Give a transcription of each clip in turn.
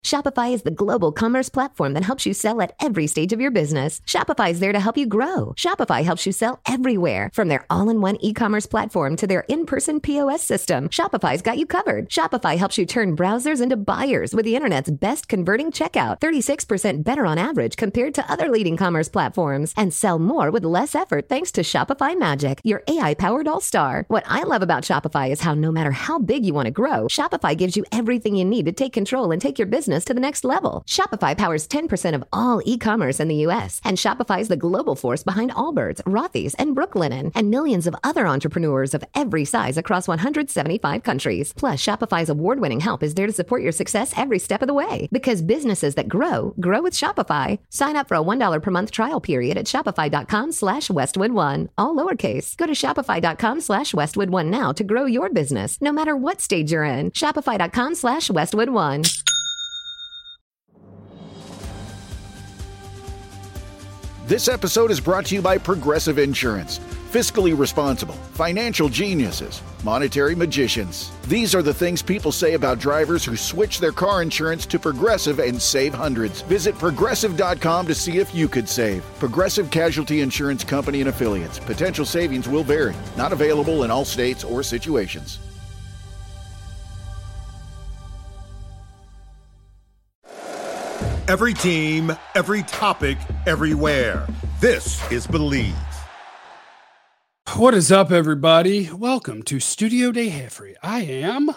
Shopify is the global commerce platform that helps you sell at every stage of your business. Shopify is there to help you grow. Shopify helps you sell everywhere, from their all-in-one e-commerce platform to their in-person POS system. Shopify's got you covered. Shopify helps you turn browsers into buyers with the internet's best converting checkout, 36% better on average compared to other leading commerce platforms, and sell more with less effort thanks to Shopify Magic, your AI-powered all-star. What I love about Shopify is how no matter how big you want to grow, Shopify gives you everything you need to take control and take your business to the next level. Shopify powers 10% of all e-commerce in the U.S., and Shopify is the global force behind Allbirds, Rothy's, and Brooklinen, and millions of other entrepreneurs of every size across 175 countries. Plus, Shopify's award-winning help is there to support your success every step of the way. Because businesses that grow with Shopify. Sign up for a $1 per month trial period at shopify.com/Westwood1, all lowercase. Go to shopify.com/Westwood1 now to grow your business, no matter what stage you're in. Shopify.com/Westwood1. This episode is brought to you by Progressive Insurance. Fiscally responsible, financial geniuses, monetary magicians. These are the things people say about drivers who switch their car insurance to Progressive and save hundreds. Visit Progressive.com to see if you could save. Progressive Casualty Insurance Company and Affiliates. Potential savings will vary. Not available in all states or situations. Every team, every topic, everywhere. This is Believe. What is up, everybody? Welcome to Studio Day Heffrey. I'm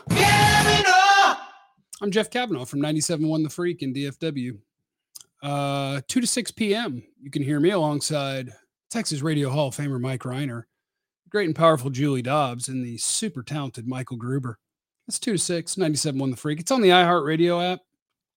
Jeff Kavanaugh from 97.1 The Freak in DFW. 2 to 6 p.m. You can hear me alongside Texas Radio Hall of Famer Mike Reiner, great and powerful Julie Dobbs, and the super talented Michael Gruber. That's 2 to 6, 97.1 The Freak. It's on the iHeartRadio app.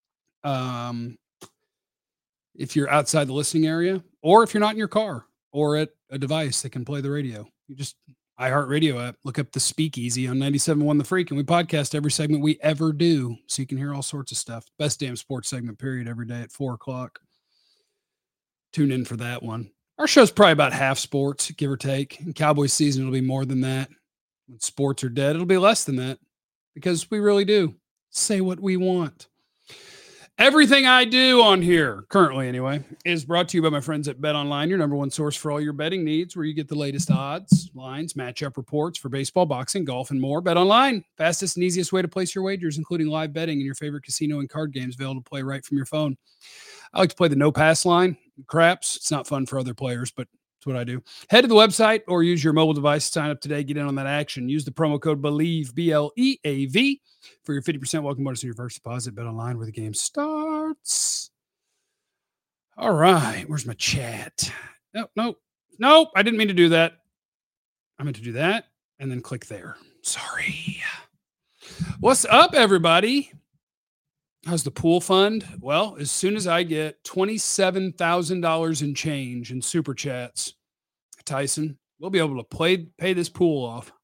If you're outside the listening area, or if you're not in your car or at a device that can play the radio, you just iHeartRadio app, look up the Speakeasy on 97.1 The Freak, and we podcast every segment we ever do, so you can hear all sorts of stuff. Best damn sports segment period every day at 4 o'clock. Tune in for that one. Our show's probably about half sports, give or take. In Cowboys season, it'll be more than that. When sports are dead, it'll be less than that, because we really do say what we want. Everything I do on here, currently anyway, is brought to you by my friends at BetOnline, your number one source for all your betting needs, where you get the latest odds, lines, matchup reports for baseball, boxing, golf, and more. BetOnline, fastest and easiest way to place your wagers, including live betting and your favorite casino and card games available to play right from your phone. I like to play the no-pass line. Craps, it's not fun for other players, but it's what I do. Head to the website or use your mobile device to sign up today. Get in on that action. Use the promo code BELIEVE, BLEAV, for your 50% welcome bonus on your first deposit. Bet online where the game starts. All right. Where's my chat? Nope. I didn't mean to do that. I meant to do that and then click there. Sorry. What's up, everybody? How's the pool fund? Well, as soon as I get $27,000 in change in super chats, Tyson, we'll be able to pay this pool off.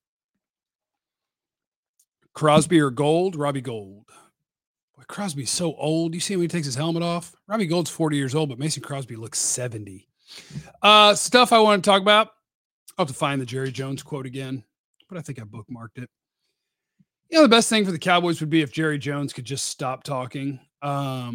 Crosby or Gold? Robbie Gold. Boy, Crosby's so old. You see him when he takes his helmet off? Robbie Gold's 40 years old, but Mason Crosby looks 70. Stuff I want to talk about. I'll have to find the Jerry Jones quote again, but I think I bookmarked it. You know, the best thing for the Cowboys would be if Jerry Jones could just stop talking. But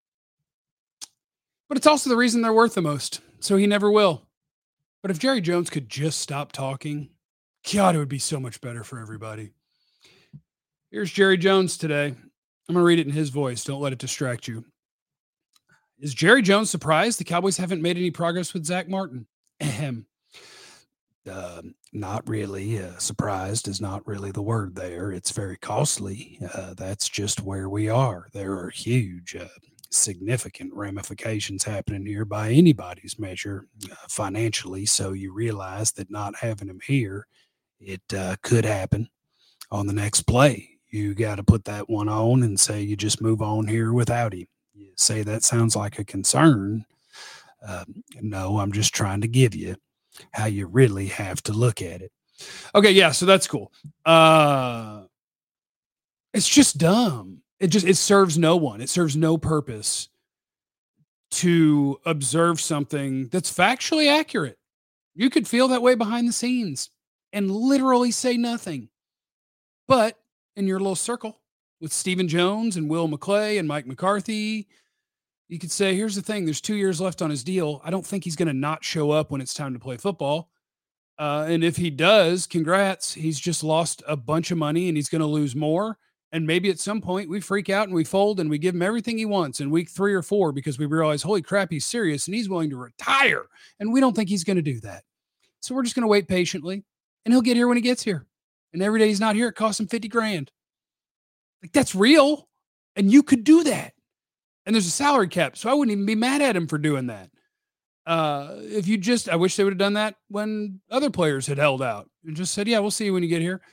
it's also the reason they're worth the most, so he never will. But if Jerry Jones could just stop talking, God, it would be so much better for everybody. Here's Jerry Jones today. I'm going to read it in his voice. Don't let it distract you. Is Jerry Jones surprised the Cowboys haven't made any progress with Zach Martin? Ahem. Not really. Surprised is not really the word there. It's very costly. That's just where we are. There are huge, significant ramifications happening here by anybody's measure financially. So you realize that not having him here, it could happen on the next play. You got to put that one on and say you just move on here without him. You say that sounds like a concern. No, I'm just trying to give you how you really have to look at it. Okay, yeah, so that's cool. It's just dumb. It serves no one. It serves no purpose to observe something that's factually accurate. You could feel that way behind the scenes and literally say nothing. But in your little circle, with Stephen Jones and Will McClay and Mike McCarthy. You could say, here's the thing, there's 2 years left on his deal. I don't think he's going to not show up when it's time to play football. And if he does, congrats. He's just lost a bunch of money and he's going to lose more. And maybe at some point we freak out and we fold and we give him everything he wants in week 3 or 4 because we realize, holy crap, he's serious and he's willing to retire. And we don't think he's going to do that. So we're just going to wait patiently and he'll get here when he gets here. And every day he's not here, it costs him $50,000. Like, that's real. And you could do that. And there's a salary cap. So I wouldn't even be mad at him for doing that. I wish they would have done that when other players had held out and just said, yeah, we'll see you when you get here.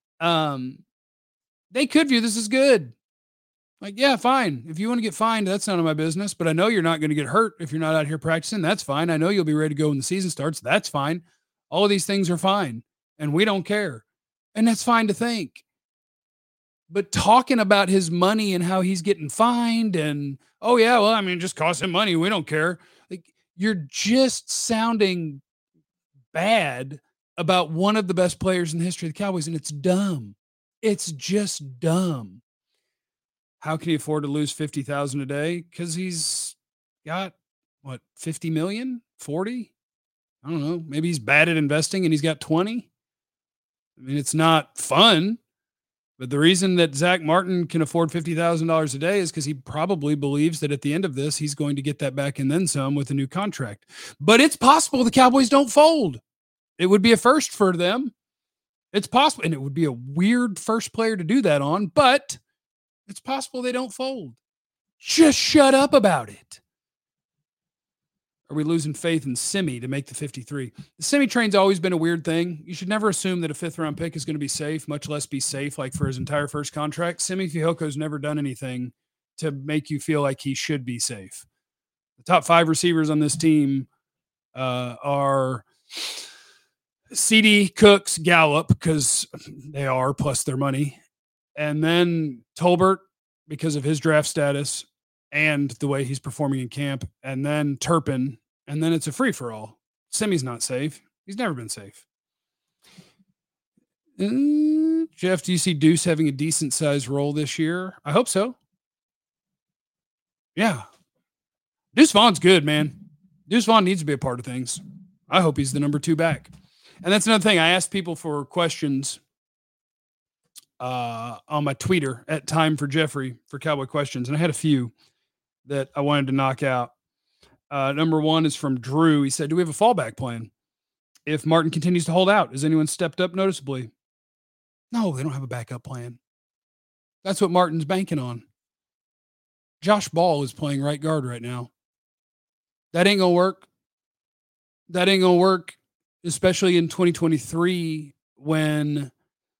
They could view this as good. Like, yeah, fine. If you want to get fined, that's none of my business, but I know you're not going to get hurt if you're not out here practicing. That's fine. I know you'll be ready to go when the season starts. That's fine. All of these things are fine and we don't care. And that's fine to think. But talking about his money and how he's getting fined and, oh yeah, well, I mean, it just costs him money. We don't care. Like, you're just sounding bad about one of the best players in the history of the Cowboys. And it's dumb. It's just dumb. How can he afford to lose $50,000 a day? Because he's got what, 50 million, 40? I don't know. Maybe he's bad at investing and he's got 20. I mean, it's not fun, but the reason that Zach Martin can afford $50,000 a day is because he probably believes that at the end of this, he's going to get that back and then some with a new contract. But it's possible the Cowboys don't fold. It would be a first for them. It's possible, and it would be a weird first player to do that on, but it's possible they don't fold. Just shut up about it. Are we losing faith in Simi to make the 53? The Simi train's always been a weird thing. You should never assume that a 5th-round pick is going to be safe, much less be safe like for his entire first contract. Simi Fehiko's never done anything to make you feel like he should be safe. The top 5 receivers on this team are CD, Cooks, Gallup, because they are, plus their money. And then Tolbert, because of his draft status and the way he's performing in camp. And then Turpin. And then it's a free-for-all. Simi's not safe. He's never been safe. Jeff, do you see Deuce having a decent-sized role this year? I hope so. Yeah. Deuce Vaughn's good, man. Deuce Vaughn needs to be a part of things. I hope he's the number 2 back. And that's another thing. I asked people for questions on my Twitter at Time for Jeffrey for Cowboy questions. And I had a few that I wanted to knock out. Number 1 is from Drew. He said, do we have a fallback plan if Martin continues to hold out? Has anyone stepped up noticeably? No, they don't have a backup plan. That's what Martin's banking on. Josh Ball is playing right guard right now. That ain't going to work. That ain't going to work, especially in 2023 when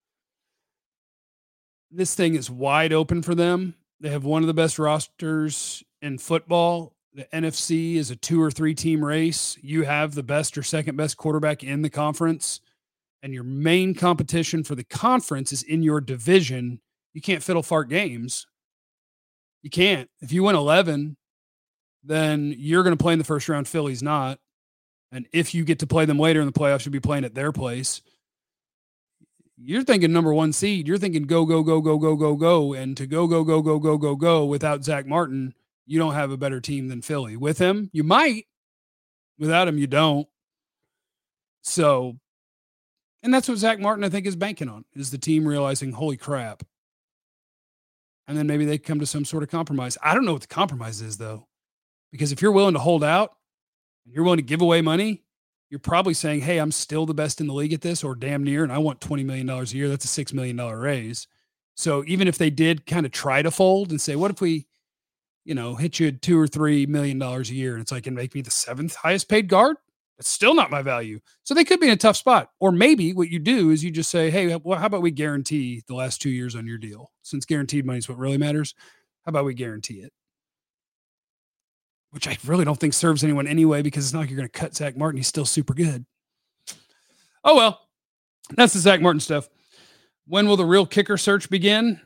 this thing is wide open for them. They have one of the best rosters in football. The NFC is a 2 or 3 team race. You have the best or second best quarterback in the conference, and your main competition for the conference is in your division. You can't fiddle fart games. You can't. If you win 11, then you're going to play in the first round. Philly's not. And if you get to play them later in the playoffs, you'll be playing at their place. You're thinking number 1 seed. You're thinking go, go, go, go, go, go, go. And to go, go, go, go, go, go, go without Zach Martin, you don't have a better team than Philly. With him, you might. Without him, you don't. So, and that's what Zach Martin, I think, is banking on, is the team realizing, holy crap. And then maybe they come to some sort of compromise. I don't know what the compromise is, though. Because if you're willing to hold out, and you're willing to give away money, you're probably saying, hey, I'm still the best in the league at this, or damn near, and I want $20 million a year. That's a $6 million raise. So even if they did kind of try to fold and say, what if we, hit you $2 or $3 million a year, and it's like, and make me the 7th highest paid guard? That's still not my value. So they could be in a tough spot. Or maybe what you do is you just say, hey, well, how about we guarantee the last 2 years on your deal? Since guaranteed money is what really matters, how about we guarantee it? Which I really don't think serves anyone anyway, because it's not like you're going to cut Zach Martin. He's still super good. Oh, well, that's the Zach Martin stuff. When will the real kicker search begin?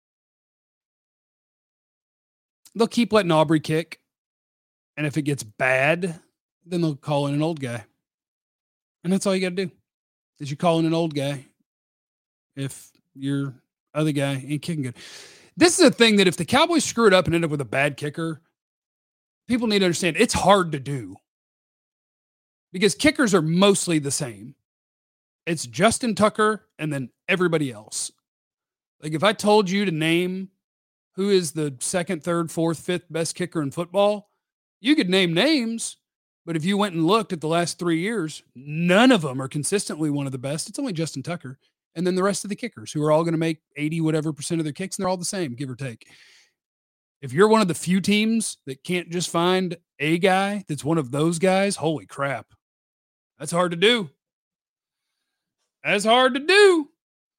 They'll keep letting Aubrey kick. And if it gets bad, then they'll call in an old guy. And that's all you got to do, is you call in an old guy if you're Other guy ain't kicking good. This is a thing that if the Cowboys screw it up and end up with a bad kicker, people need to understand it's hard to do because kickers are mostly the same. It's Justin Tucker and then everybody else. Like if I told you to name who is the second, third, fourth, fifth best kicker in football, you could name names, but if you went and looked at the last 3 years, none of them are consistently one of the best. It's only Justin Tucker. And then the rest of the kickers who are all going to make 80 whatever percent of their kicks, and they're all the same, give or take. If you're one of the few teams that can't just find a guy that's one of those guys, holy crap. That's hard to do. That's hard to do.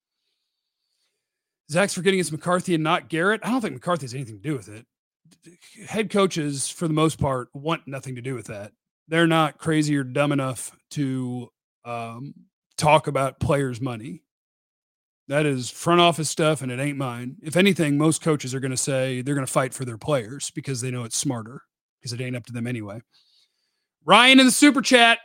Zach's forgetting it's McCarthy and not Garrett. I don't think McCarthy has anything to do with it. Head coaches, for the most part, want nothing to do with that. They're not crazy or dumb enough to talk about players' money. That is front office stuff, and it ain't mine. If anything, most coaches are going to say they're going to fight for their players because they know it's smarter because it ain't up to them anyway. Ryan in the super chat.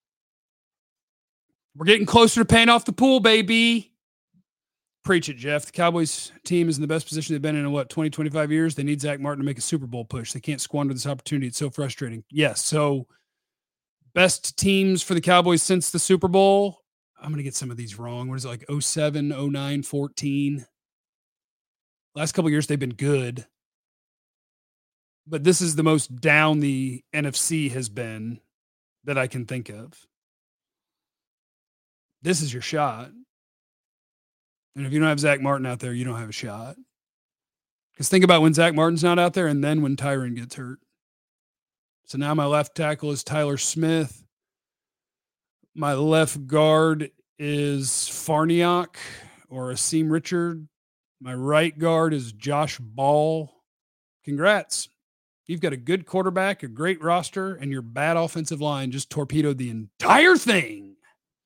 We're getting closer to paying off the pool, baby. Preach it, Jeff. The Cowboys team is in the best position they've been in 20, 25 years. They need Zach Martin to make a Super Bowl push. They can't squander this opportunity. It's so frustrating. Yes. So best teams for the Cowboys since the Super Bowl. I'm going to get some of these wrong. What is it, like 07, 09, 14? Last couple of years, they've been good. But this is the most down the NFC has been that I can think of. This is your shot. And if you don't have Zach Martin out there, you don't have a shot. Because think about when Zach Martin's not out there and then when Tyron gets hurt. So now my left tackle is Tyler Smith. My left guard is Farniok or Asim Richard. My right guard is Josh Ball. Congrats. You've got a good quarterback, a great roster, and your bad offensive line just torpedoed the entire thing.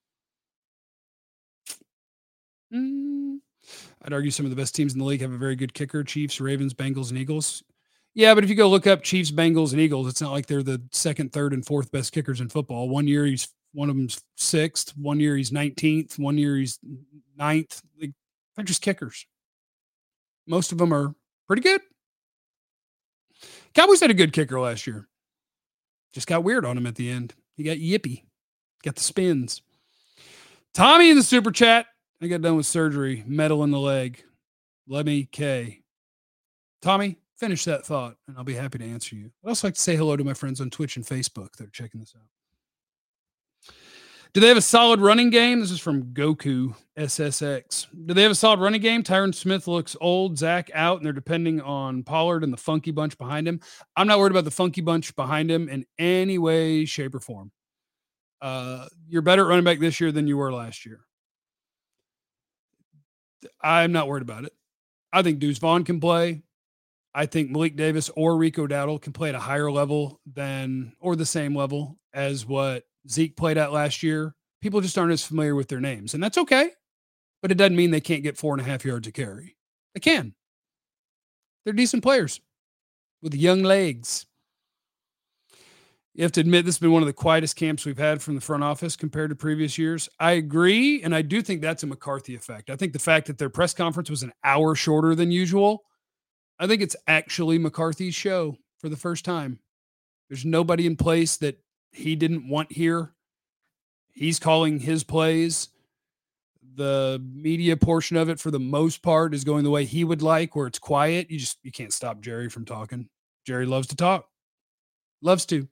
I'd argue some of the best teams in the league have a very good kicker. Chiefs, Ravens, Bengals, and Eagles. Yeah, but if you go look up Chiefs, Bengals, and Eagles, it's not like they're the second, third, and fourth best kickers in football. One year one of them's sixth. One year he's 19th. One year he's ninth. They're just kickers. Most of them are pretty good. Cowboys had a good kicker last year. Just got weird on him at the end. He got yippy. Got the spins. Tommy in the super chat. I got done with surgery. Metal in the leg. Lemmy K. Tommy, finish that thought, and I'll be happy to answer you. I'd also like to say hello to my friends on Twitch and Facebook that are checking this out. Do they have a solid running game? This is from Goku SSX. Do they have a solid running game? Tyron Smith looks old. Zach out, and they're depending on Pollard and the funky bunch behind him. I'm not worried about the funky bunch behind him in any way, shape, or form. You're better at running back this year than you were last year. I'm not worried about it. I think Deuce Vaughn can play. I think Malik Davis or Rico Dowdle can play at a higher level or the same level as what Zeke played at last year. People just aren't as familiar with their names, and that's okay. But it doesn't mean they can't get 4.5 yards a carry. They can. They're decent players with young legs. You have to admit, this has been one of the quietest camps we've had from the front office compared to previous years. I agree, and I do think that's a McCarthy effect. I think the fact that their press conference was an hour shorter than usual, I think it's actually McCarthy's show for the first time. There's nobody in place that he didn't want here. He's calling his plays. The media portion of it, for the most part, is going the way he would like, where it's quiet. You can't stop Jerry from talking. Jerry loves to talk. Loves to.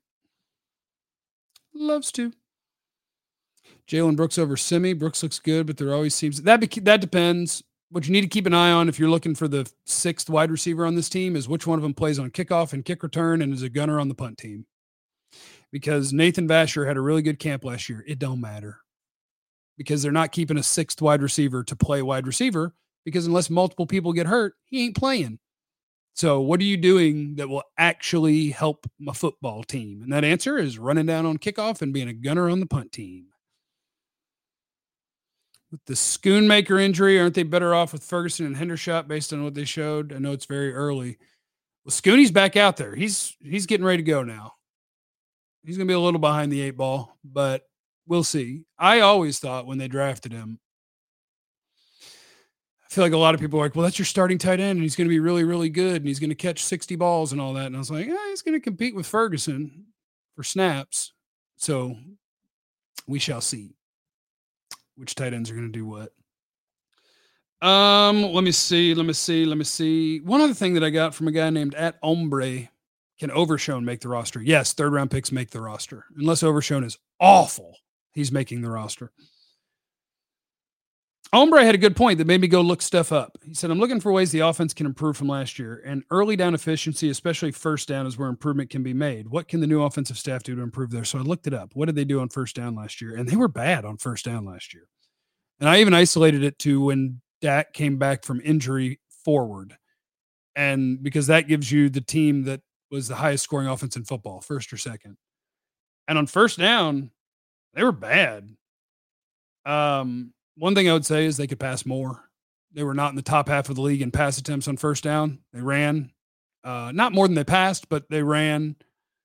Jalen Brooks over Simi. Brooks looks good, but there always seems that depends. What you need to keep an eye on if you're looking for the sixth wide receiver on this team is which one of them plays on kickoff and kick return and is a gunner on the punt team. Because Nathan Vasher had a really good camp last year. It don't matter. Because they're not keeping a sixth wide receiver to play wide receiver, because unless multiple people get hurt, he ain't playing. So what are you doing that will actually help my football team? And that answer is running down on kickoff and being a gunner on the punt team. With the Schoonmaker injury, aren't they better off with Ferguson and Hendershot based on what they showed? I know it's very early. Well, Schooney's back out there. He's getting ready to go now. He's going to be a little behind the 8 ball, but we'll see. I always thought when they drafted him, I feel like a lot of people are like, well, that's your starting tight end, and he's going to be really, really good, and he's going to catch 60 balls and all that. And I was like, he's going to compete with Ferguson for snaps. So we shall see which tight ends are going to do what. Let me see. One other thing that I got from a guy named @Ombre, can Overshown make the roster? Yes, 3rd round picks make the roster. Unless Overshown is awful, he's making the roster. Ombre had a good point that made me go look stuff up. He said, I'm looking for ways the offense can improve from last year, and early down efficiency, especially first down, is where improvement can be made. What can the new offensive staff do to improve there? So I looked it up. What did they do on first down last year? And they were bad on first down last year. And I even isolated it to when Dak came back from injury forward. And because that gives you the team that was the highest scoring offense in football, first or second. And on first down, they were bad. One thing I would say is they could pass more. They were not in the top half of the league in pass attempts on first down. They ran not more than they passed, but they ran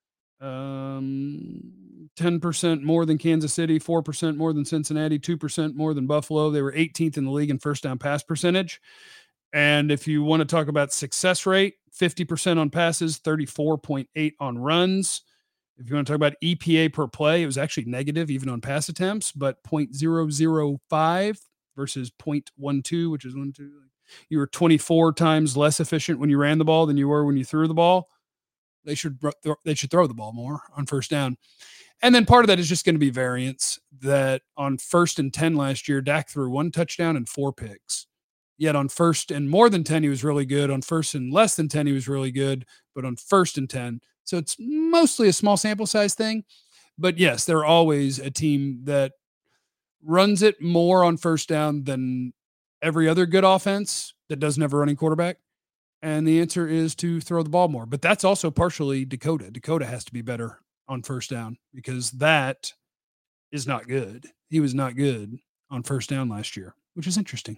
10% more than Kansas City, 4% more than Cincinnati, 2% more than Buffalo. They were 18th in the league in first down pass percentage. And if you want to talk about success rate, 50% on passes, 34.8 on runs. If you want to talk about EPA per play, it was actually negative even on pass attempts, but 0.005 versus 0.12, which is 1, 2. You were 24 times less efficient when you ran the ball than you were when you threw the ball. They should throw the ball more on first down. And then part of that is just going to be variance, that on 1st and 10 last year, Dak threw 1 touchdown and 4 picks. Yet on 1st and more than 10, he was really good. On 1st and less than 10, he was really good. But on 1st and 10, so it's mostly a small sample size thing. But yes, they're always a team that runs it more on first down than every other good offense that doesn't have a running quarterback. And the answer is to throw the ball more. But that's also partially Dakota. Dakota has to be better on first down because that is not good. He was not good on first down last year, which is interesting.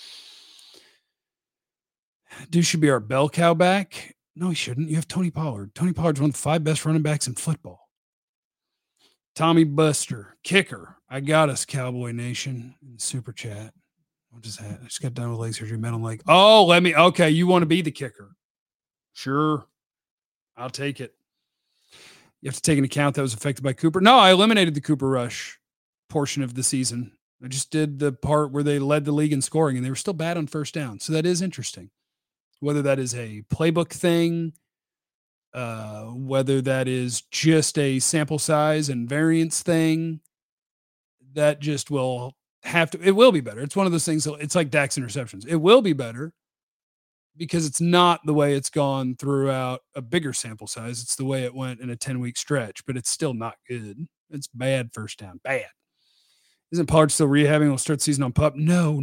Dude should be our bell cow back. No, he shouldn't. You have Tony Pollard. Tony Pollard's one of the 5 best running backs in football. Tommy Buster, kicker. I got us, Cowboy Nation. Super chat. What is that? I just got done with leg surgery. Metal leg. Oh, okay. You want to be the kicker? Sure. I'll take it. You have to take into account that was affected by Cooper. No, I eliminated the Cooper Rush portion of the season. I just did the part where they led the league in scoring and they were still bad on first down. So that is interesting. Whether that is a playbook thing, whether that is just a sample size and variance thing, that just will have to, it will be better. It's one of those things. It's like Dak's interceptions. It will be better because it's not the way it's gone throughout a bigger sample size. It's the way it went in a 10-week stretch, but it's still not good. It's bad first down. Bad. Isn't Pollard still rehabbing? We'll start the season on PUP. No.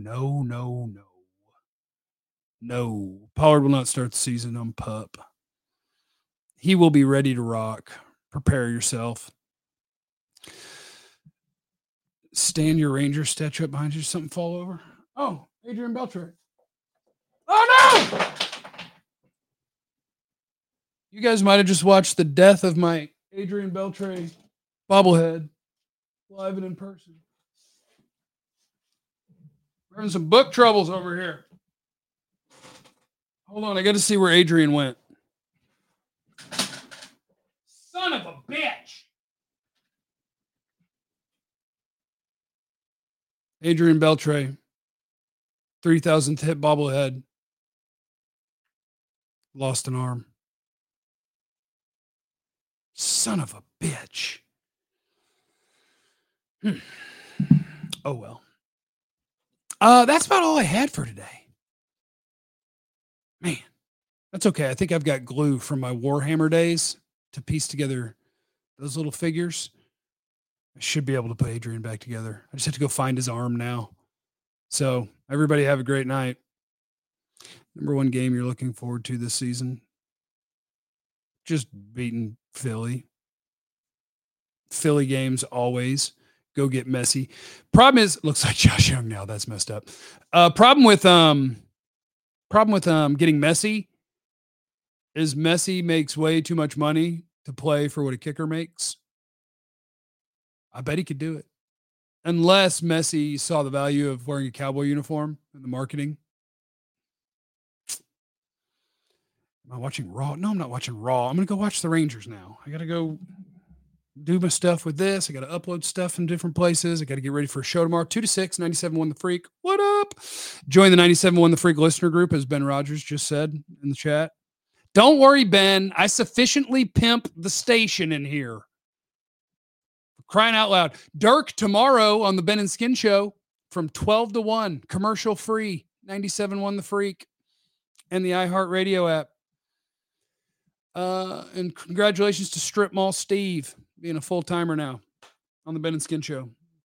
No, Pollard will not start the season on PUP. He will be ready to rock. Prepare yourself. Stand your Ranger statue up behind you. Something fall over. Oh, Adrian Beltre. Oh, no! You guys might have just watched the death of my Adrian Beltre bobblehead live and in person. We're having some book troubles over here. Hold on, I got to see where Adrian went. Son of a bitch. Adrian Beltre, 3,000th hit bobblehead. Lost an arm. Son of a bitch. Oh, well. That's about all I had for today. Man, that's okay. I think I've got glue from my Warhammer days to piece together those little figures. I should be able to put Adrian back together. I just have to go find his arm now. So everybody have a great night. Number 1 game you're looking forward to this season? Just beating Philly. Philly games always go get messy. Problem is, looks like Josh Young now. That's messed up. Problem with getting messy is Messi makes way too much money to play for what a kicker makes. I bet he could do it. unless Messi saw the value of wearing a Cowboy uniform in the marketing. Am I watching Raw? No, I'm not watching Raw. I'm going to go watch the Rangers now. I got to go do my stuff with this. I got to upload stuff in different places. I got to get ready for a show tomorrow. 2 to 6, 97.1 The Freak. What up? Join the 97.1 The Freak listener group, as Ben Rogers just said in the chat. Don't worry, Ben. I sufficiently pimp the station in here. Crying out loud. Dirk tomorrow on the Ben and Skin Show from 12 to 1, commercial free, 97.1 The Freak, and the iHeartRadio app. And congratulations to Strip Mall Steve being a full-timer now on the Ben and Skin Show.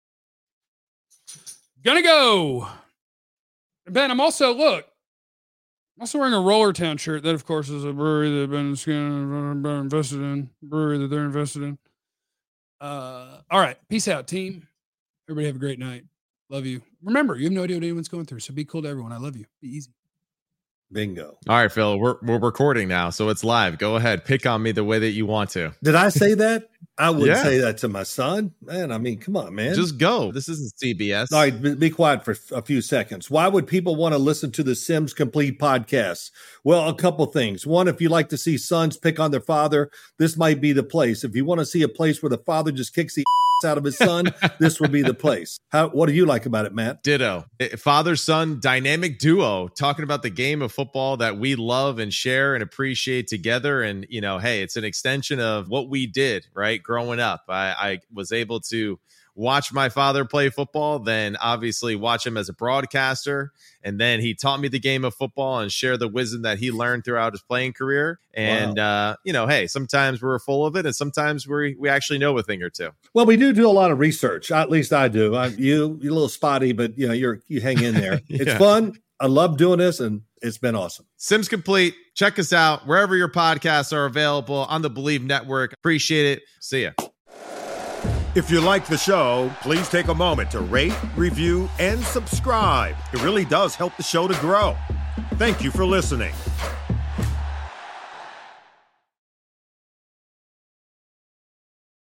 Gonna go. Ben, I'm also wearing a Roller Town shirt. That, of course, is a brewery that Ben and Skin invested in. Brewery that they're invested in. All right. Peace out, team. Everybody have a great night. Love you. Remember, you have no idea what anyone's going through, so be cool to everyone. I love you. Be easy. Bingo. All right, Phil, we're recording now, so it's live. Go ahead. Pick on me the way that you want to. Did I say that? I wouldn't say that to my son. Man, I mean, come on, man. Just go. This isn't CBS. All right, be quiet for a few seconds. Why would people want to listen to the Sims Complete podcast? Well, a couple things. One, if you like to see sons pick on their father, this might be the place. If you want to see a place where the father just kicks the out of his son, this would be the place. What do you like about it, Matt? Ditto. Father-son dynamic duo talking about the game of football that we love and share and appreciate together. And, you know, hey, it's an extension of what we did, right? Growing up, I was able to watch my father play football, then obviously watch him as a broadcaster. And then he taught me the game of football and share the wisdom that he learned throughout his playing career. And, you know, hey, sometimes we're full of it and sometimes we actually know a thing or two. Well, we do a lot of research. At least I do. You're a little spotty, but you know, you hang in there. It's fun. I love doing this and it's been awesome. Sims Complete. Check us out wherever your podcasts are available on the Believe Network. Appreciate it. See ya. If you like the show, please take a moment to rate, review, and subscribe. It really does help the show to grow. Thank you for listening.